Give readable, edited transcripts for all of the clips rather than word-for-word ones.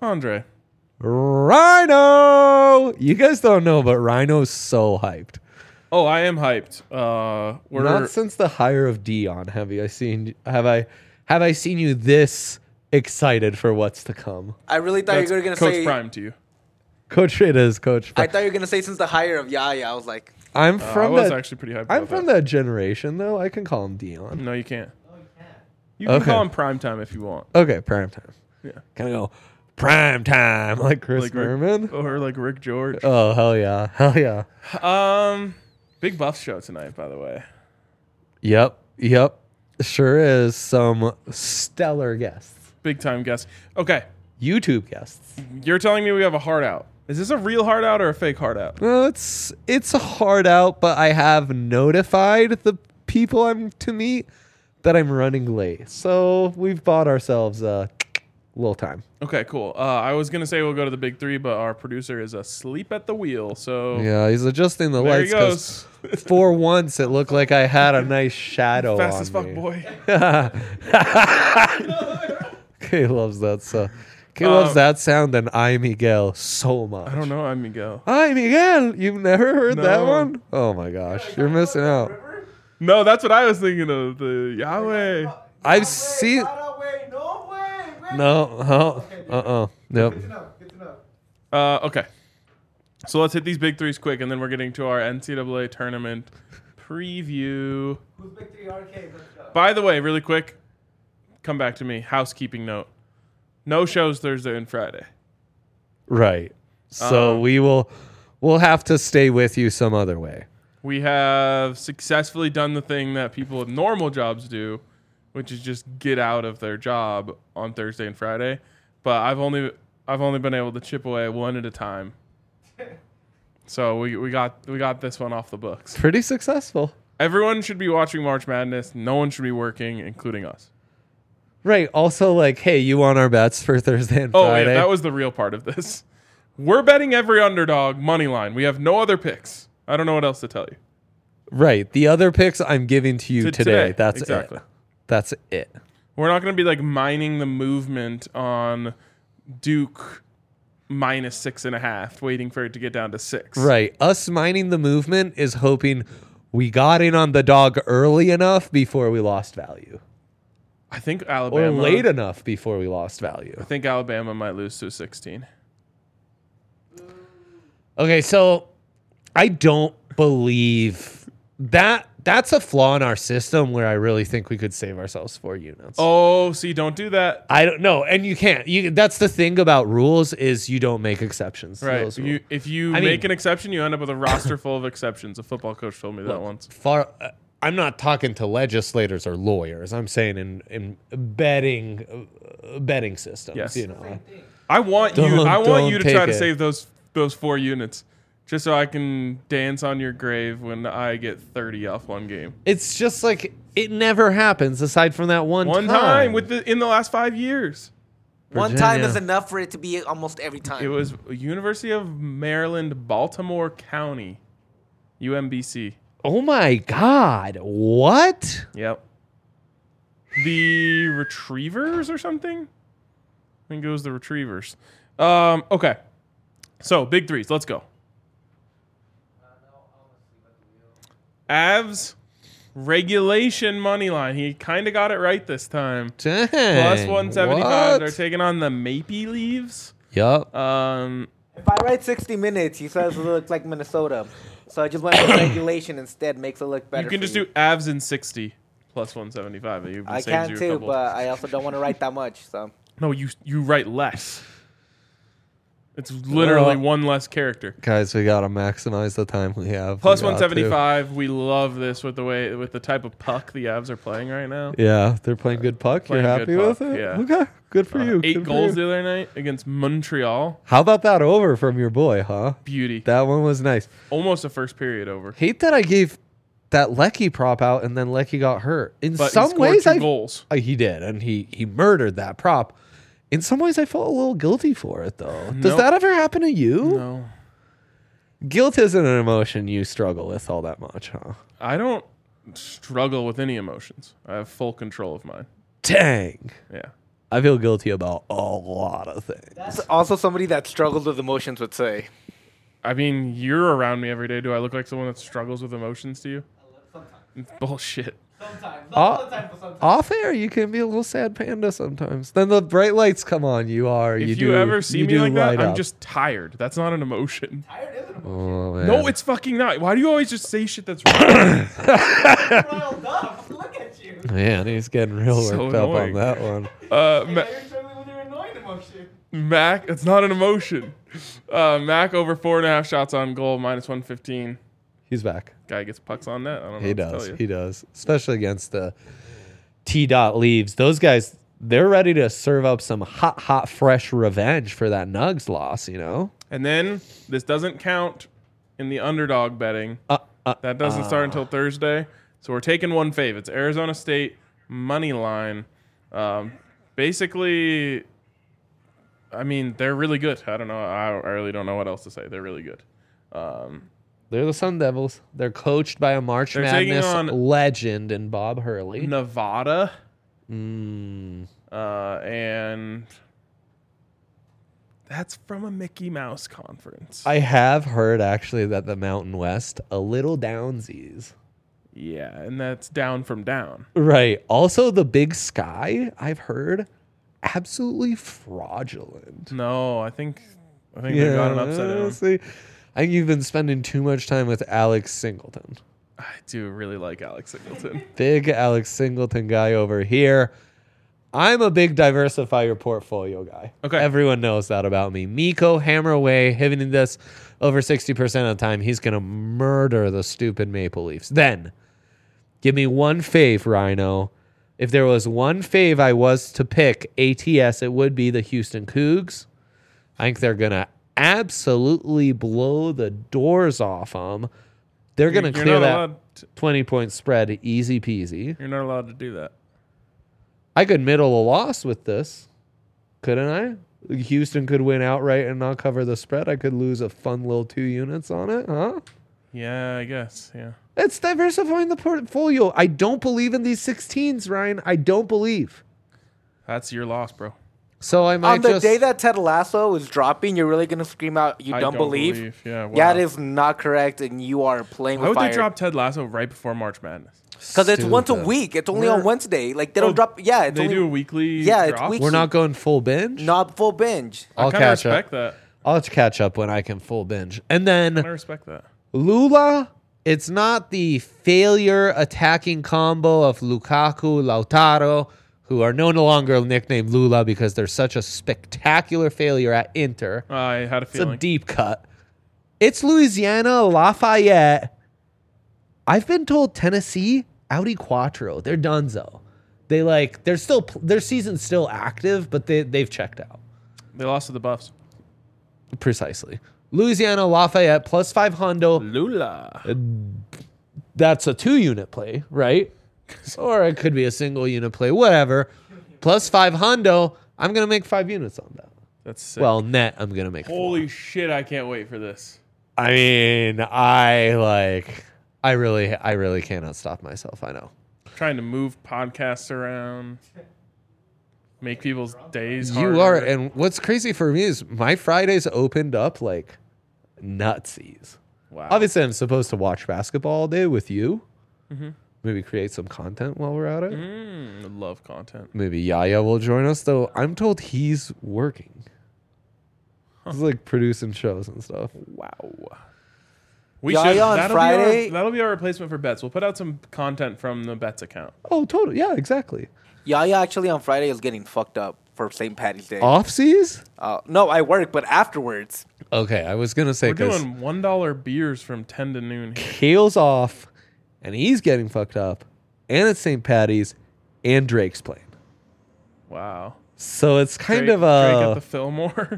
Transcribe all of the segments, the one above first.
Andre. Rhino! You guys don't know, but Rhino's so hyped. Oh, I am hyped. We're Not since the hire of Dion have I seen you this excited for what's to come. I really thought you were going to Coach say... Prime to you. Coach, it is Coach Prime. I thought you were going to say since the hire of Yaya. I was like... I was actually pretty hyped about I'm from that generation, though. I can call him Dion. No, you can't. You can call him Prime Time if you want. Okay, prime time. Yeah. Can I go prime time like Chris Berman? Or like Rick George. Oh, hell yeah. Hell yeah. Big Buff show tonight, by the way. Yep. Sure is. Some stellar guests. Big time guest. Okay. YouTube guests. You're telling me we have a hard out. Is this a real hard out or a fake hard out? Well, it's a hard out, but I have notified the people I'm to meet that I'm running late. So we've bought ourselves a little time. Okay, cool. I was going to say we'll go to the big three, but our producer is asleep at the wheel. So Yeah, he's adjusting the there lights. he goes. For once, it looked like I had a nice shadow Fast on as fuck, me. boy. Kay loves that stuff. Kay loves that sound and I Miguel so much. I don't know. I'm Miguel. I Miguel, you've never heard that No. one? Oh my gosh, you're missing out. No, that's what I was thinking of. The Yahweh. I've seen. No, Nope. Okay. So let's hit these big threes quick, and then we're getting to our NCAA tournament preview. Who's big three arcade? Let's go. By the way, really quick, come back to me. Housekeeping note. No shows Thursday and Friday. Right. So we'll have to stay with you some other way. We have successfully done the thing that people with normal jobs do, which is just get out of their job on Thursday and Friday. But I've only been able to chip away one at a time. So we got this one off the books. Pretty successful. Everyone should be watching March Madness. No one should be working, including us. Right. Also, like, hey, you want our bets for Thursday and Oh, Friday? yeah, that was the real part of this. We're betting every underdog money line. We have no other picks. I don't know what else to tell you. Right. The other picks I'm giving to you today. That's exactly. it. That's it. We're not going to be like mining the movement on Duke minus 6.5, waiting for it to get down to 6. Right. Us mining the movement is hoping we got in on the dog early enough before we lost value. I think Alabama. Or late enough before we lost value. I think Alabama might lose to 16. Okay, so I don't believe that. That's a flaw in our system where I really think we could save ourselves 4 units. Oh, see, don't do that. I don't know, and you can't. That's the thing about rules is you don't make exceptions. to Right. those rules. If you I make mean- an exception, you end up with a roster full of exceptions. A football coach told me that once. I'm not talking to legislators or lawyers. I'm saying in betting systems. Yes. You know, I want Don't you to take try to it. save those 4 units. Just so I can dance on your grave when I get 30 off one game. it's just like it never happens aside from that one Time in the last 5 years. One time Virginia. is enough for it to be almost every time. It was University of Maryland, Baltimore County, UMBC. Oh my God! What? Yep. The Retrievers or something? I think it was the Retrievers. Okay. So, big threes. Let's go. Avs regulation money line. He kind of got it right this time. Dang, Plus 175. what? They're taking on the Maple Leaves. Yup. If I write 60 minutes, he says it looks like Minnesota. So I just went with regulation instead. Makes it look better. You can for just do Avs in 60 plus 175. It I saves can you a too, couple. but I also don't want to write that much. So No, you write less. It's literally one less character. Guys, we gotta maximize the time we have. Plus We got to. 175. We love this with the type of puck the Avs are playing right now. Yeah, they're playing good puck. You're Playing happy good with puck, it? yeah. Okay, good for you. 8 Good for goals you. the other night against Montreal. How about that over from your boy, huh? Beauty. That one was nice. Almost a first period over. Hate that I gave that Lecky prop out and then Lecky got hurt. In But some he scored ways, 2 goals. he did, and he murdered that prop. In some ways, I felt a little guilty for it, though. Does Nope. that ever happen to you? No. Guilt isn't an emotion you struggle with all that much, huh? I don't struggle with any emotions. I have full control of mine. Dang. Yeah. I feel guilty about a lot of things. That's also somebody that struggles with emotions would say. I mean, you're around me every day. Do I look like someone that struggles with emotions to you? Sometimes. Bullshit. Sometimes. Not all the time, but sometimes. Off air, you can be a little sad panda sometimes. Then the bright lights come on. You are. If you ever see me like that, I'm up. just tired. That's not an emotion. Tired is an emotion. Oh, man. No, it's fucking not. Why do you always just say shit that's wrong? Riled up. Look at you. Man, he's getting real So worked up on annoying. that one. You're struggling with your annoying emotion. Mac, it's not an emotion. Mac over 4.5 shots on goal, -115. He's back. Guy gets pucks on net. I don't know He what to does. tell you. He does. Especially against the T-Dot Leaves. Those guys, they're ready to serve up some hot, fresh revenge for that Nugs loss, you know? And then this doesn't count in the underdog betting. That doesn't start until Thursday. So we're taking one fave. It's Arizona State money line. Basically, I mean, they're really good. I don't know. I really don't know what else to say. They're really good. They're the Sun Devils. They're coached by a March They're taking Madness on legend in Bob Hurley. Nevada. Mm. And that's from a Mickey Mouse conference. I have heard, actually, that the Mountain West, a little downsies. Yeah, and that's down from down. Right. Also, the Big Sky, I've heard, absolutely fraudulent. No, I think they got an upside down. See, I think you've been spending too much time with Alex Singleton. I do really like Alex Singleton. Big Alex Singleton guy over here. I'm a big diversify your portfolio guy. Okay. Everyone knows that about me. Miko, hammer away, hitting this over 60% of the time. He's going to murder the stupid Maple Leafs. Then, give me one fave, Rhino. If there was one fave I was to pick, ATS, it would be the Houston Cougs. I think they're going to absolutely blow the doors off them. They're going to clear that 20-point spread easy peasy. You're not allowed to do that. I could middle a loss with this, couldn't I? Houston could win outright and not cover the spread. I could lose a fun little 2 units on it, huh? Yeah, I guess. Yeah. It's diversifying the portfolio. I don't believe in these 16s, Ryan. I don't believe. That's your loss, bro. So I might On the just... day that Ted Lasso is dropping, you're really going to scream out, you I don't believe? Yeah, wow. Yeah, it is not correct, and you are playing Why with would fire. they drop Ted Lasso right before March Madness? Because it's once a Stupid. week. It's only on Wednesday. Like, they don't drop... Yeah, it's They only... do a weekly Yeah, it's drop? weekly. We're not going full binge? Not full binge. I I'll kind of catch respect up. that. I'll have to catch up when I can full binge. And then... I respect that. Lula, it's not the failure attacking combo of Lukaku, Lautaro, who are no longer nicknamed Lula because they're such a spectacular failure at Inter. I had a It's a feeling. deep cut. It's Louisiana, Lafayette. I've been told Tennessee, Audi Quattro. They're donezo. Their season's still active, but they've checked out. They lost to the Buffs. Precisely. Louisiana, Lafayette, +5 hundo. Lula. That's a 2-unit play, right? Or it could be a single unit play, whatever. +5 hundo. I'm going to make 5 units on that. That's sick. Well, net, I'm going to make 4. Holy shit, I can't wait for this. I mean, I really cannot stop myself. I know. Trying to move podcasts around, make people's days harder. You are, and what's crazy for me is my Fridays opened up like nutsies. Wow. Obviously, I'm supposed to watch basketball all day with you. Maybe create some content while we're at it. I love content. Maybe Yaya will join us, though. I'm told he's working. He's like producing shows and stuff. Wow. We Yaya should. on Friday- That'll be our replacement for Bets. We'll put out some content from the Bets account. Oh, totally. Yeah, exactly. Yaya actually on Friday is getting fucked up for St. Patty's Day. Off seas? No, I work, but afterwards. Okay, I was gonna say We're because doing $1 beers from 10 to noon. Kale's off, and he's getting fucked up, and it's St. Patty's, and Drake's playing. Wow. So it's kind Drake, of Drake at a the Fillmore.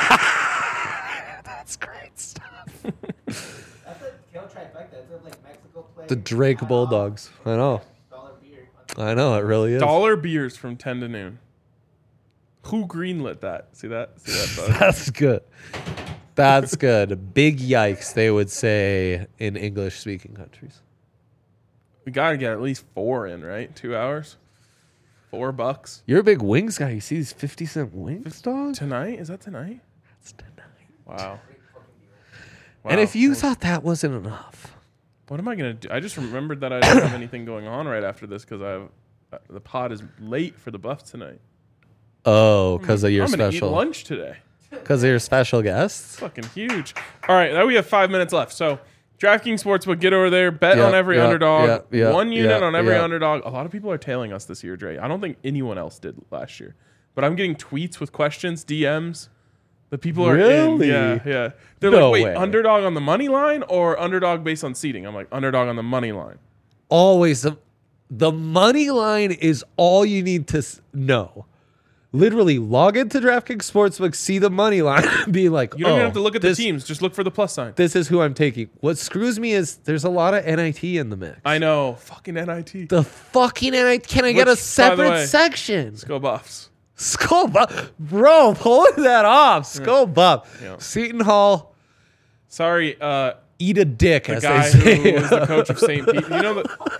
that's great stuff. That's a kill trifecta. It's like Mexico play. The Drake Bulldogs. I know. Dollar beer. I know it really is. Dollar beers from 10 to noon. Who greenlit that? See that? See that? Bud? That's good. That's good. Big yikes, they would say in English-speaking countries. We got to get at least 4 in, right? 2 hours? $4 You're a big wings guy. You see these 50-cent wings, dog? tonight. Is that tonight? That's tonight. Wow. And if you Well, thought that wasn't enough, what am I gonna do? I just remembered that I don't have anything going on right after this because the pod is late for the Buffs tonight. because of your I'm gonna eat special, lunch today. because of your special guests. Fucking huge. All right, now we have 5 minutes left. So DraftKings Sportsbook, get over there, bet on every underdog, one unit on every underdog. A lot of people are tailing us this year, Dre. I don't think anyone else did last year, but I'm getting tweets with questions, DMs. The people are in. Really? Yeah. They're No like, wait, way. underdog on the money line or underdog based on seating? I'm like, underdog on the money line. Always the money line is all you need to know. Literally, log into DraftKings Sportsbook, see the money line, and be like, You don't even have to look at the this, teams. Just look for the plus sign. This is who I'm taking. What screws me is there's a lot of NIT in the mix. I know. Fucking NIT. The fucking NIT. Can I get Which, a by the separate way, section? Let's go Buffs. Skull Buff. Bro, pulling that off. Skull Buff. Yeah. Seton Hall, Sorry, eat a dick, the as guy they who say. was the coach of St. Pete. You know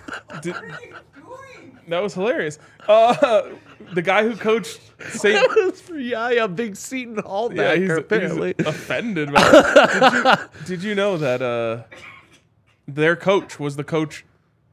that was hilarious. The guy who coached St. That was for Yaya, big Seton Hall Yeah, backer, apparently. he's offended. By it. Did you know that their coach was the coach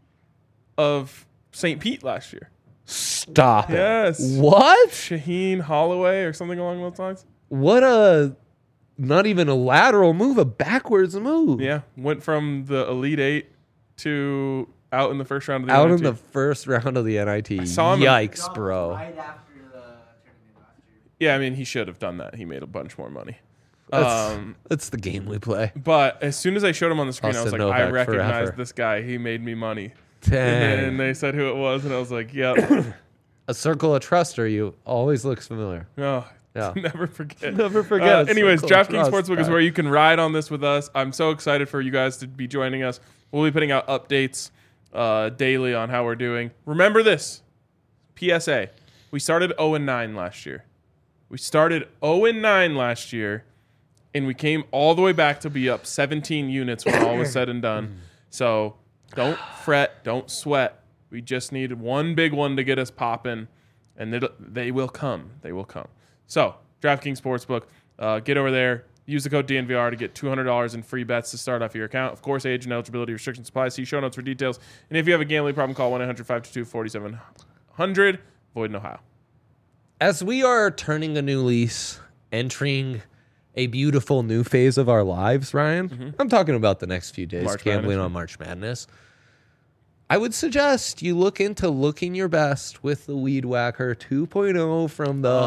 of St. Pete last year? Stop it. Yes. What? Shaheen Holloway or something along those lines. What a, not even a lateral move, a backwards move. Yeah, went from the Elite Eight to out in the first round of the Out NIT. in the first round of the NIT. saw him- Yikes, bro. Right after the tournament last year. Yeah, I mean he should have done that. He made a bunch more money. That's the game we play. But as soon as I showed him on the screen, I was Austin like, I Novak recognize forever. this guy. He made me money. Dang. And they said who it was, and I was like, yep. A circle of trust, or you always looks familiar. Oh, Yeah. never forget. Never forget. Anyways, Circle of DraftKings trust, Sportsbook is guy. where you can ride on this with us. I'm so excited for you guys to be joining us. We'll be putting out updates daily on how we're doing. Remember this, PSA. We started 0-9 last year. We started 0-9 last year, and we came all the way back to be up 17 units when all was said and done. So don't fret, don't sweat. We just need one big one to get us popping, and they will come. They will come. So DraftKings Sportsbook, get over there. Use the code DNVR to get $200 in free bets to start off your account. Of course, age and eligibility restrictions apply. See show notes for details. And if you have a gambling problem, call 1-800-522-4700. Void in Ohio. As we are turning a new lease, entering a beautiful new phase of our lives, Ryan, I'm talking about the next few days, March gambling Madness. on March Madness. I would suggest you look into looking your best with the Weed Whacker 2.0 from the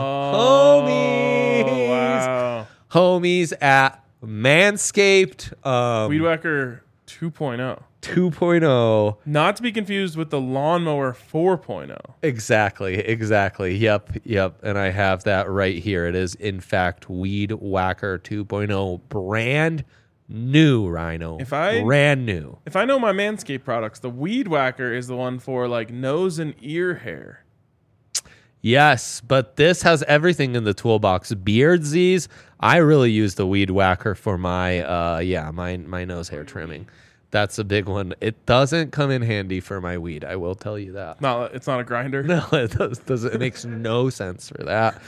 homies. Wow. Homies at Manscaped. Weed Whacker 2.0. 2.0. Not to be confused with the Lawnmower 4.0. Exactly. Yep. And I have that right here. It is, in fact, Weed Whacker 2.0. Brand new, Rhino. Brand new. If I know my Manscaped products, the Weed Whacker is the one for like nose and ear hair. Yes, but this has everything in the toolbox. Beardsies. I really use the Weed Whacker for my my nose hair trimming. That's a big one. It doesn't come in handy for my weed. I will tell you that. No, it's not a grinder. No, it doesn't. It makes no sense for that.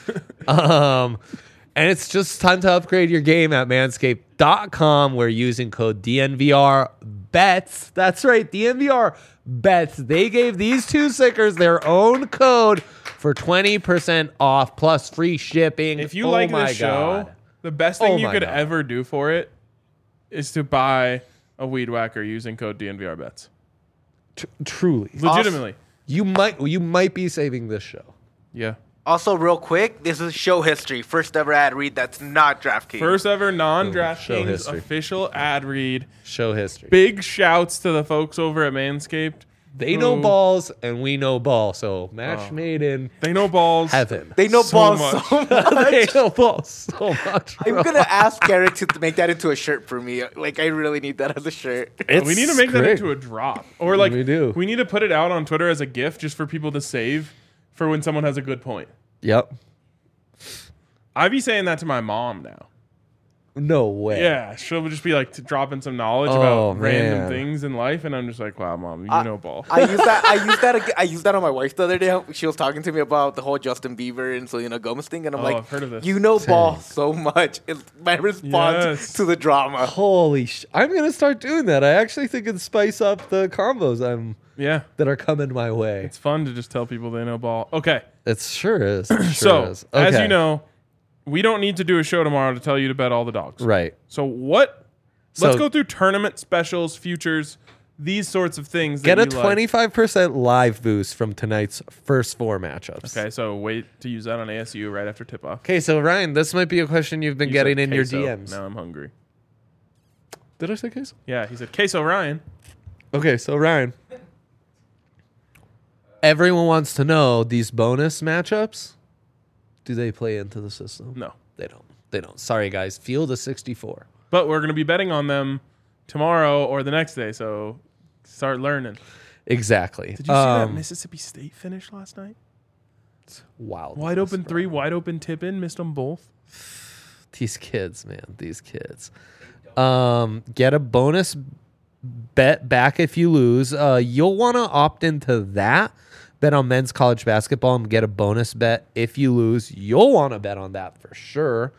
And it's just time to upgrade your game at manscaped.com. We're using code DNVR bets. That's right, DNVR bets. They gave these two stickers their own code for 20% off plus free shipping. If you like this show, the best thing you could ever do for it is to buy a Weed Whacker using code DNVR bets. Truly, Legitimately. you might be saving this show. Yeah. Also, real quick, this is show history. First ever ad read that's not DraftKings. First ever Show non-DraftKings history. official ad read. Show history. Big shouts to the folks over at Manscaped. They know who- balls and we know ball. So match made in They know balls. heaven. They know so balls much. so much. They know balls so much. I'm bro. gonna ask Garrett to make that into a shirt for me. Like, I really need that as a shirt. We need to make that great. into a drop. Or like We do. we need to put it out on Twitter as a gift just for people to save for when someone has a good point. Yep. I be saying that to my mom now. No way. Yeah, she'll just be like dropping some knowledge Oh, about random man. things in life, and I'm just like, wow, mom, you know ball. I used that on my wife the other day. She was talking to me about the whole Justin Bieber and Selena Gomez thing, and I'm like, I've heard of this. you know ball Same. so much. It's my response Yes. to the drama. Holy I'm going to start doing that. I actually think it'd spice up the combos Yeah, that are coming my way. it's fun to just tell people they know ball. Okay, It sure is. It sure so is. as Okay. you know, we don't need to do a show tomorrow to tell you to bet all the dogs. Right. So what? Let's So- go through tournament specials, futures, these sorts of things. Get a that you like. 25% live boost from tonight's first 4 matchups. Okay, so wait to use that on ASU right after tip off. Okay, so Ryan, this might be a question you've been getting in your DMs. Now I'm hungry. Did I say queso? Yeah, he said queso Ryan. Okay, so Ryan. Everyone wants to know these bonus matchups. Do they play into the system? No, They don't. They don't. Sorry, guys. Field of 64. but we're gonna be betting on them tomorrow or the next day. So start learning. Exactly. Did you see that Mississippi State finish last night? Wild. Wide open three, wide open tip in, missed them both. These kids, man. These kids. Get a bonus bet back if you lose. You'll want to opt into that. Bet on men's college basketball and get a bonus bet if you lose. You'll want to bet on that for sure.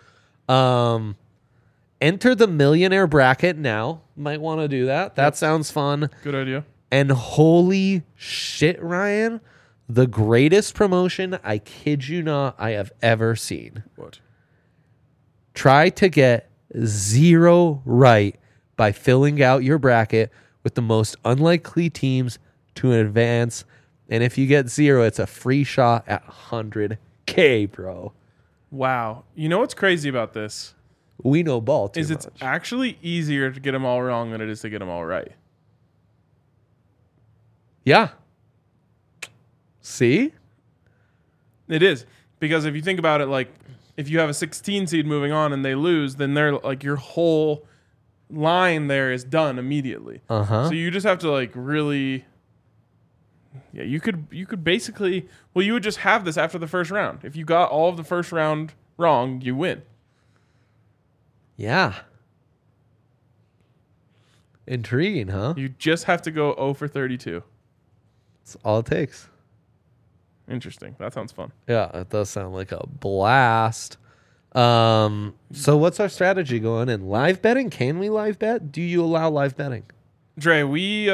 Enter the millionaire bracket now. Might want to do that. That sounds fun. Good idea. And holy shit, Ryan, the greatest promotion, I kid you not, I have ever seen. What? Try to get 0 right by filling out your bracket with the most unlikely teams to advance. And if you get 0, it's a free shot at 100K, bro. Wow. You know what's crazy about this? We know ball too Is it's much. actually easier to get them all wrong than it is to get them all right. Yeah. See? It is. Because if you think about it, like, if you have a 16 seed moving on and they lose, then they're like your whole line there is done immediately. Uh-huh. So you just have to like really, yeah. You could basically, well, you would just have this after the first round. If you got all of the first round wrong, you win. Yeah. Intriguing, huh? You just have to go 0 for 32. That's all it takes. Interesting. That sounds fun. Yeah, it does sound like a blast. So what's our strategy going in? Live betting? Can we live bet? Do you allow live betting? Dre, we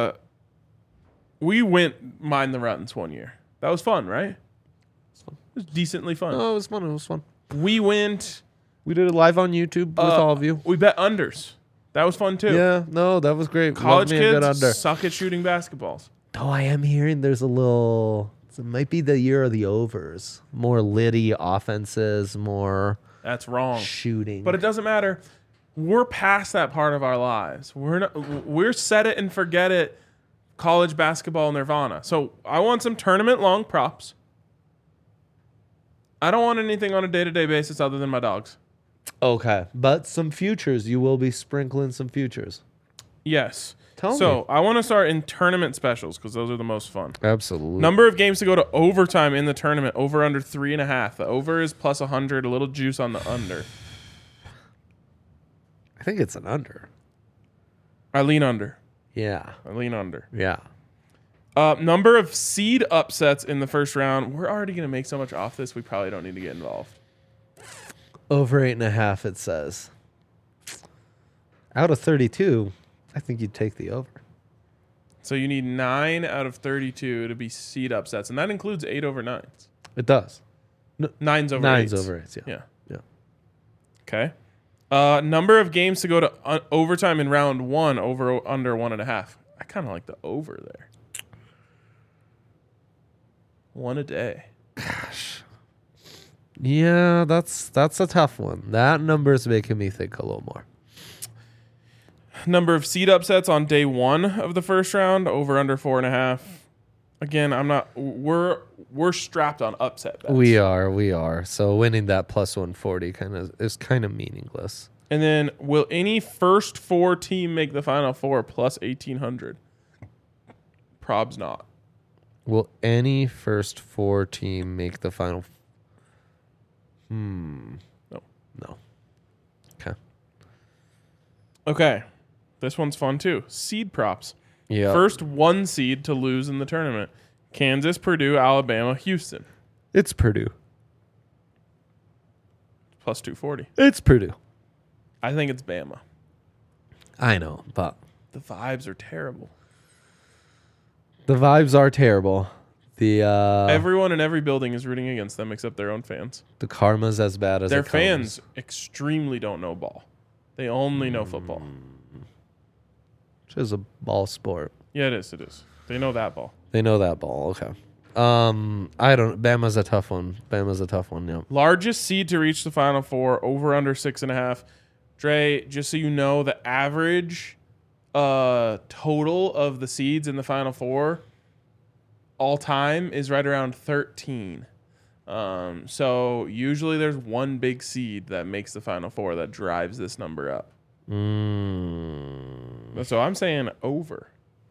went Mind the Runs one year. That was fun, right? It was decently fun. Oh, it was fun. It was fun. We went. We did it live on YouTube with all of you. We bet unders. That was fun too. Yeah, no, that was great. College Love me a good kids under. suck at shooting basketballs. Though I am hearing there's a little. It might be the year of the overs. More litty offenses, more That's wrong. shooting. But it doesn't matter. We're past that part of our lives. We're set it and forget it. College basketball nirvana. So I want some tournament long props. I don't want anything on a day-to-day basis other than my dogs. Okay, but some futures. You will be sprinkling some futures. Yes. Tell so me. I want to start in tournament specials because those are the most fun. Absolutely. Number of games to go to overtime in the tournament, over under 3.5. The over is plus 100, a little juice on the under. I think it's an under. I lean under. Yeah. I lean under. Yeah. Number of seed upsets in the first round. We're already going to make so much off this, we probably don't need to get involved. Over 8.5, it says. Out of 32, I think you'd take the over. So you need 9 out of 32 to be seed upsets, and that includes 8 over 9s. It does. 9s over 9's 8s. over 8s, yeah. Yeah. Yeah. Okay. Number of games to go to overtime in round 1, over under 1.5. I kind of like the over there. 1 a day. Yeah, that's a tough one. That number's making me think a little more. Number of seed upsets on day 1 of the first round, over under 4.5. Again, I'm not. We're strapped on upset bets. We are. So winning that plus 140 is kind of meaningless. And then, will any first 4 team make the final 4 plus 1,800? Probs not. Will any first 4 team make the final? No. No. Okay. Okay. This one's fun too. Seed props. Yeah. First one seed to lose in the tournament. Kansas, Purdue, Alabama, Houston. It's Purdue. Plus 240. It's Purdue. I think it's Bama. I know, but The vibes are terrible. the vibes are terrible. The Everyone in every building is rooting against them except their own fans. the karma's as bad as Their it comes. fans extremely don't know ball. They only know football. Which is a ball sport. Yeah, it is. It is. They know that ball. They know that ball. Okay. I don't. Bama's a tough one. Yeah. Largest seed to reach the Final Four, over under 6.5. Dre, just so you know, the average total of the seeds in the Final Four all time is right around 13. So usually there's one big seed that makes the Final Four that drives this number up. So I'm saying over.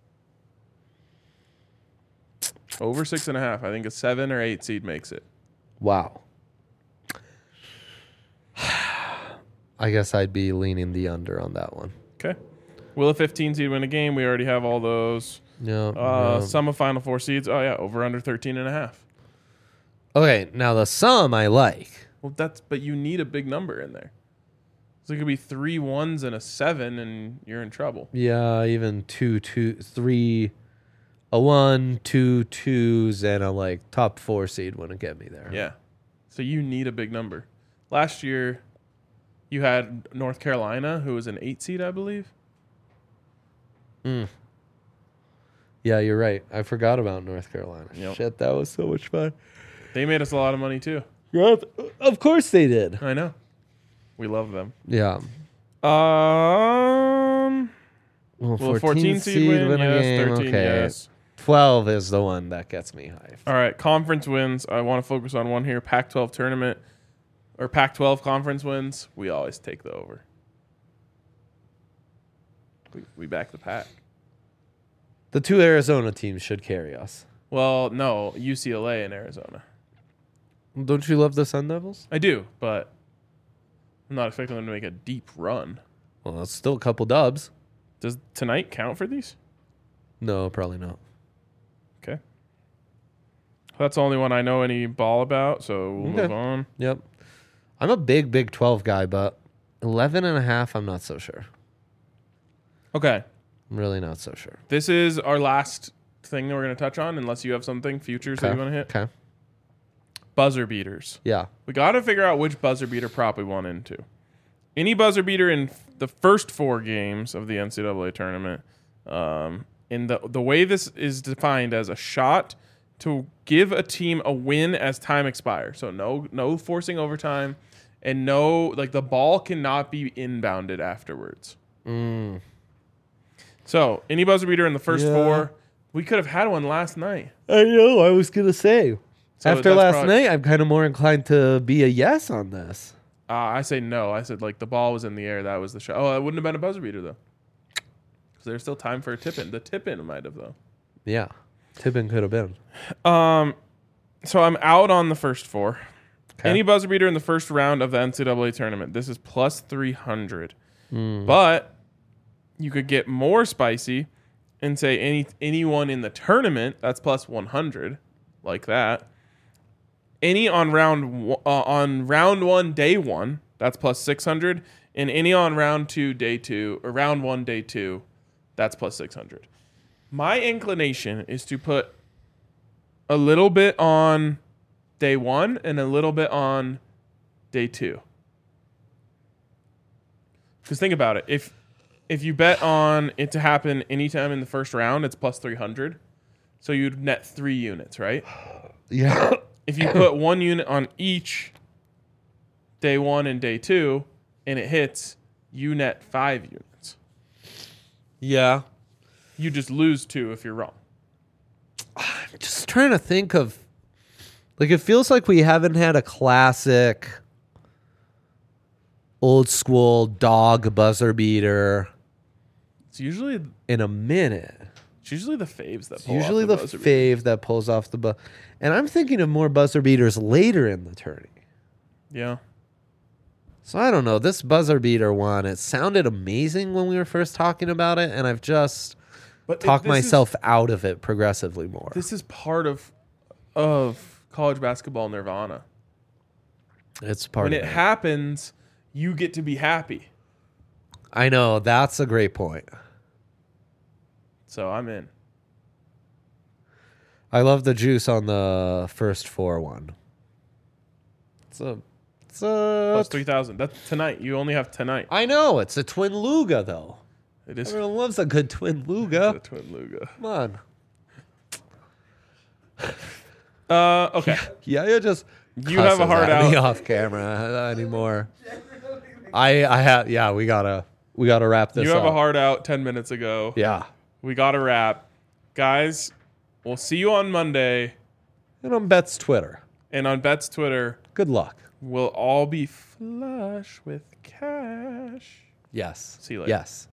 Over 6.5. I think a 7 or 8 seed makes it. Wow. I guess I'd be leaning the under on that one. Okay. Will a 15 seed win a game? We already have all those. Yeah. Sum of Final Four seeds. Oh, yeah. Over under 13.5. Okay. Now the sum I like. Well, but you need a big number in there. So it could be 3 1s and a 7, and you're in trouble. Yeah. Even 2, 2, 3, a 1, 2, 2s, and a like top 4 seed wouldn't get me there. Yeah. So you need a big number. Last year, you had North Carolina, who was an 8 seed, I believe. Yeah, you're right. I forgot about North Carolina. Yep. Shit, that was so much fun. They made us a lot of money, too. Yeah, of course they did. I know. We love them. Yeah. Will Well, a 14 seed win? Yes. 13, okay. yes. 12 is the one that gets me hyped. All right, conference wins. I want to focus on one here. Pac-12 tournament or Pac-12 conference wins. We always take the over. We back the Pac. The 2 Arizona teams should carry us. Well, no, UCLA and Arizona. Don't you love the Sun Devils? I do, but I'm not expecting them to make a deep run. Well, that's still a couple dubs. Does tonight count for these? No, probably not. Okay. That's the only one I know any ball about, so we'll Okay. move on. Yep. I'm a big Big 12 guy, but 11.5, I'm not so sure. Okay. I'm really not so sure. This is our last thing that we're going to touch on, unless you have something, futures that you want to hit. Okay. Buzzer beaters. Yeah. We got to figure out which buzzer beater prop we want into. Any buzzer beater in the first 4 games of the NCAA tournament, in the way this is defined as a shot to give a team a win as time expires. So no forcing overtime, and the ball cannot be inbounded afterwards. So any buzzer beater in the first 4, we could have had one last night. I know. I was going to say. So After that's last probably- night, I'm kind of more inclined to be a yes on this. I say no. I said the ball was in the air. That was the shot. Oh, it wouldn't have been a buzzer beater though. Because there's still time for a tip in. The tip in might have though. Yeah. Tipping could have been. So I'm out on the first 4. Okay. Any buzzer beater in the first round of the NCAA tournament. This is plus 300. But you could get more spicy and say anyone in the tournament, that's plus 100, like that. Any on round 1, day 1, that's plus 600. And any on round 2, day 2, or round 1, day 2, that's plus 600. My inclination is to put a little bit on day 1 and a little bit on day 2. Because think about it. If you bet on it to happen anytime in the first round, it's plus 300. So you'd net 3 units, right? Yeah. If you put 1 unit on each day 1 and day 2 and it hits, you net 5 units. Yeah. You just lose 2 if you're wrong. Just trying to think of, it feels like we haven't had a classic old school dog buzzer beater It's usually in a minute. the faves that It's pull usually off the buzzer beater. fave that pulls off the buzzer. And I'm thinking of more buzzer beaters later in the tourney. Yeah. So I don't know. This buzzer beater one, it sounded amazing when we were first talking about it, and I've just talked myself out of it progressively more. This is part of college basketball nirvana. It's part When of it it. happens, you get to be happy. I know. That's a great point. So I'm in. I love the juice on the first 4-1. It's a Plus 3,000. That's tonight. You only have tonight. I know. It's a twin Luga, though. It is Everyone loves a good twin a Luga. twin Luga. Come on. Okay. Yeah, you just You have a cusses heart at me out. off camera anymore. I have. Yeah, we gotta wrap this You have up. a heart out 10 minutes ago. Yeah. We got to wrap. Guys, we'll see you on Monday. And on Bet's Twitter. And on Bet's Twitter, Good luck. we'll all be flush with cash. Yes. See you later. Yes.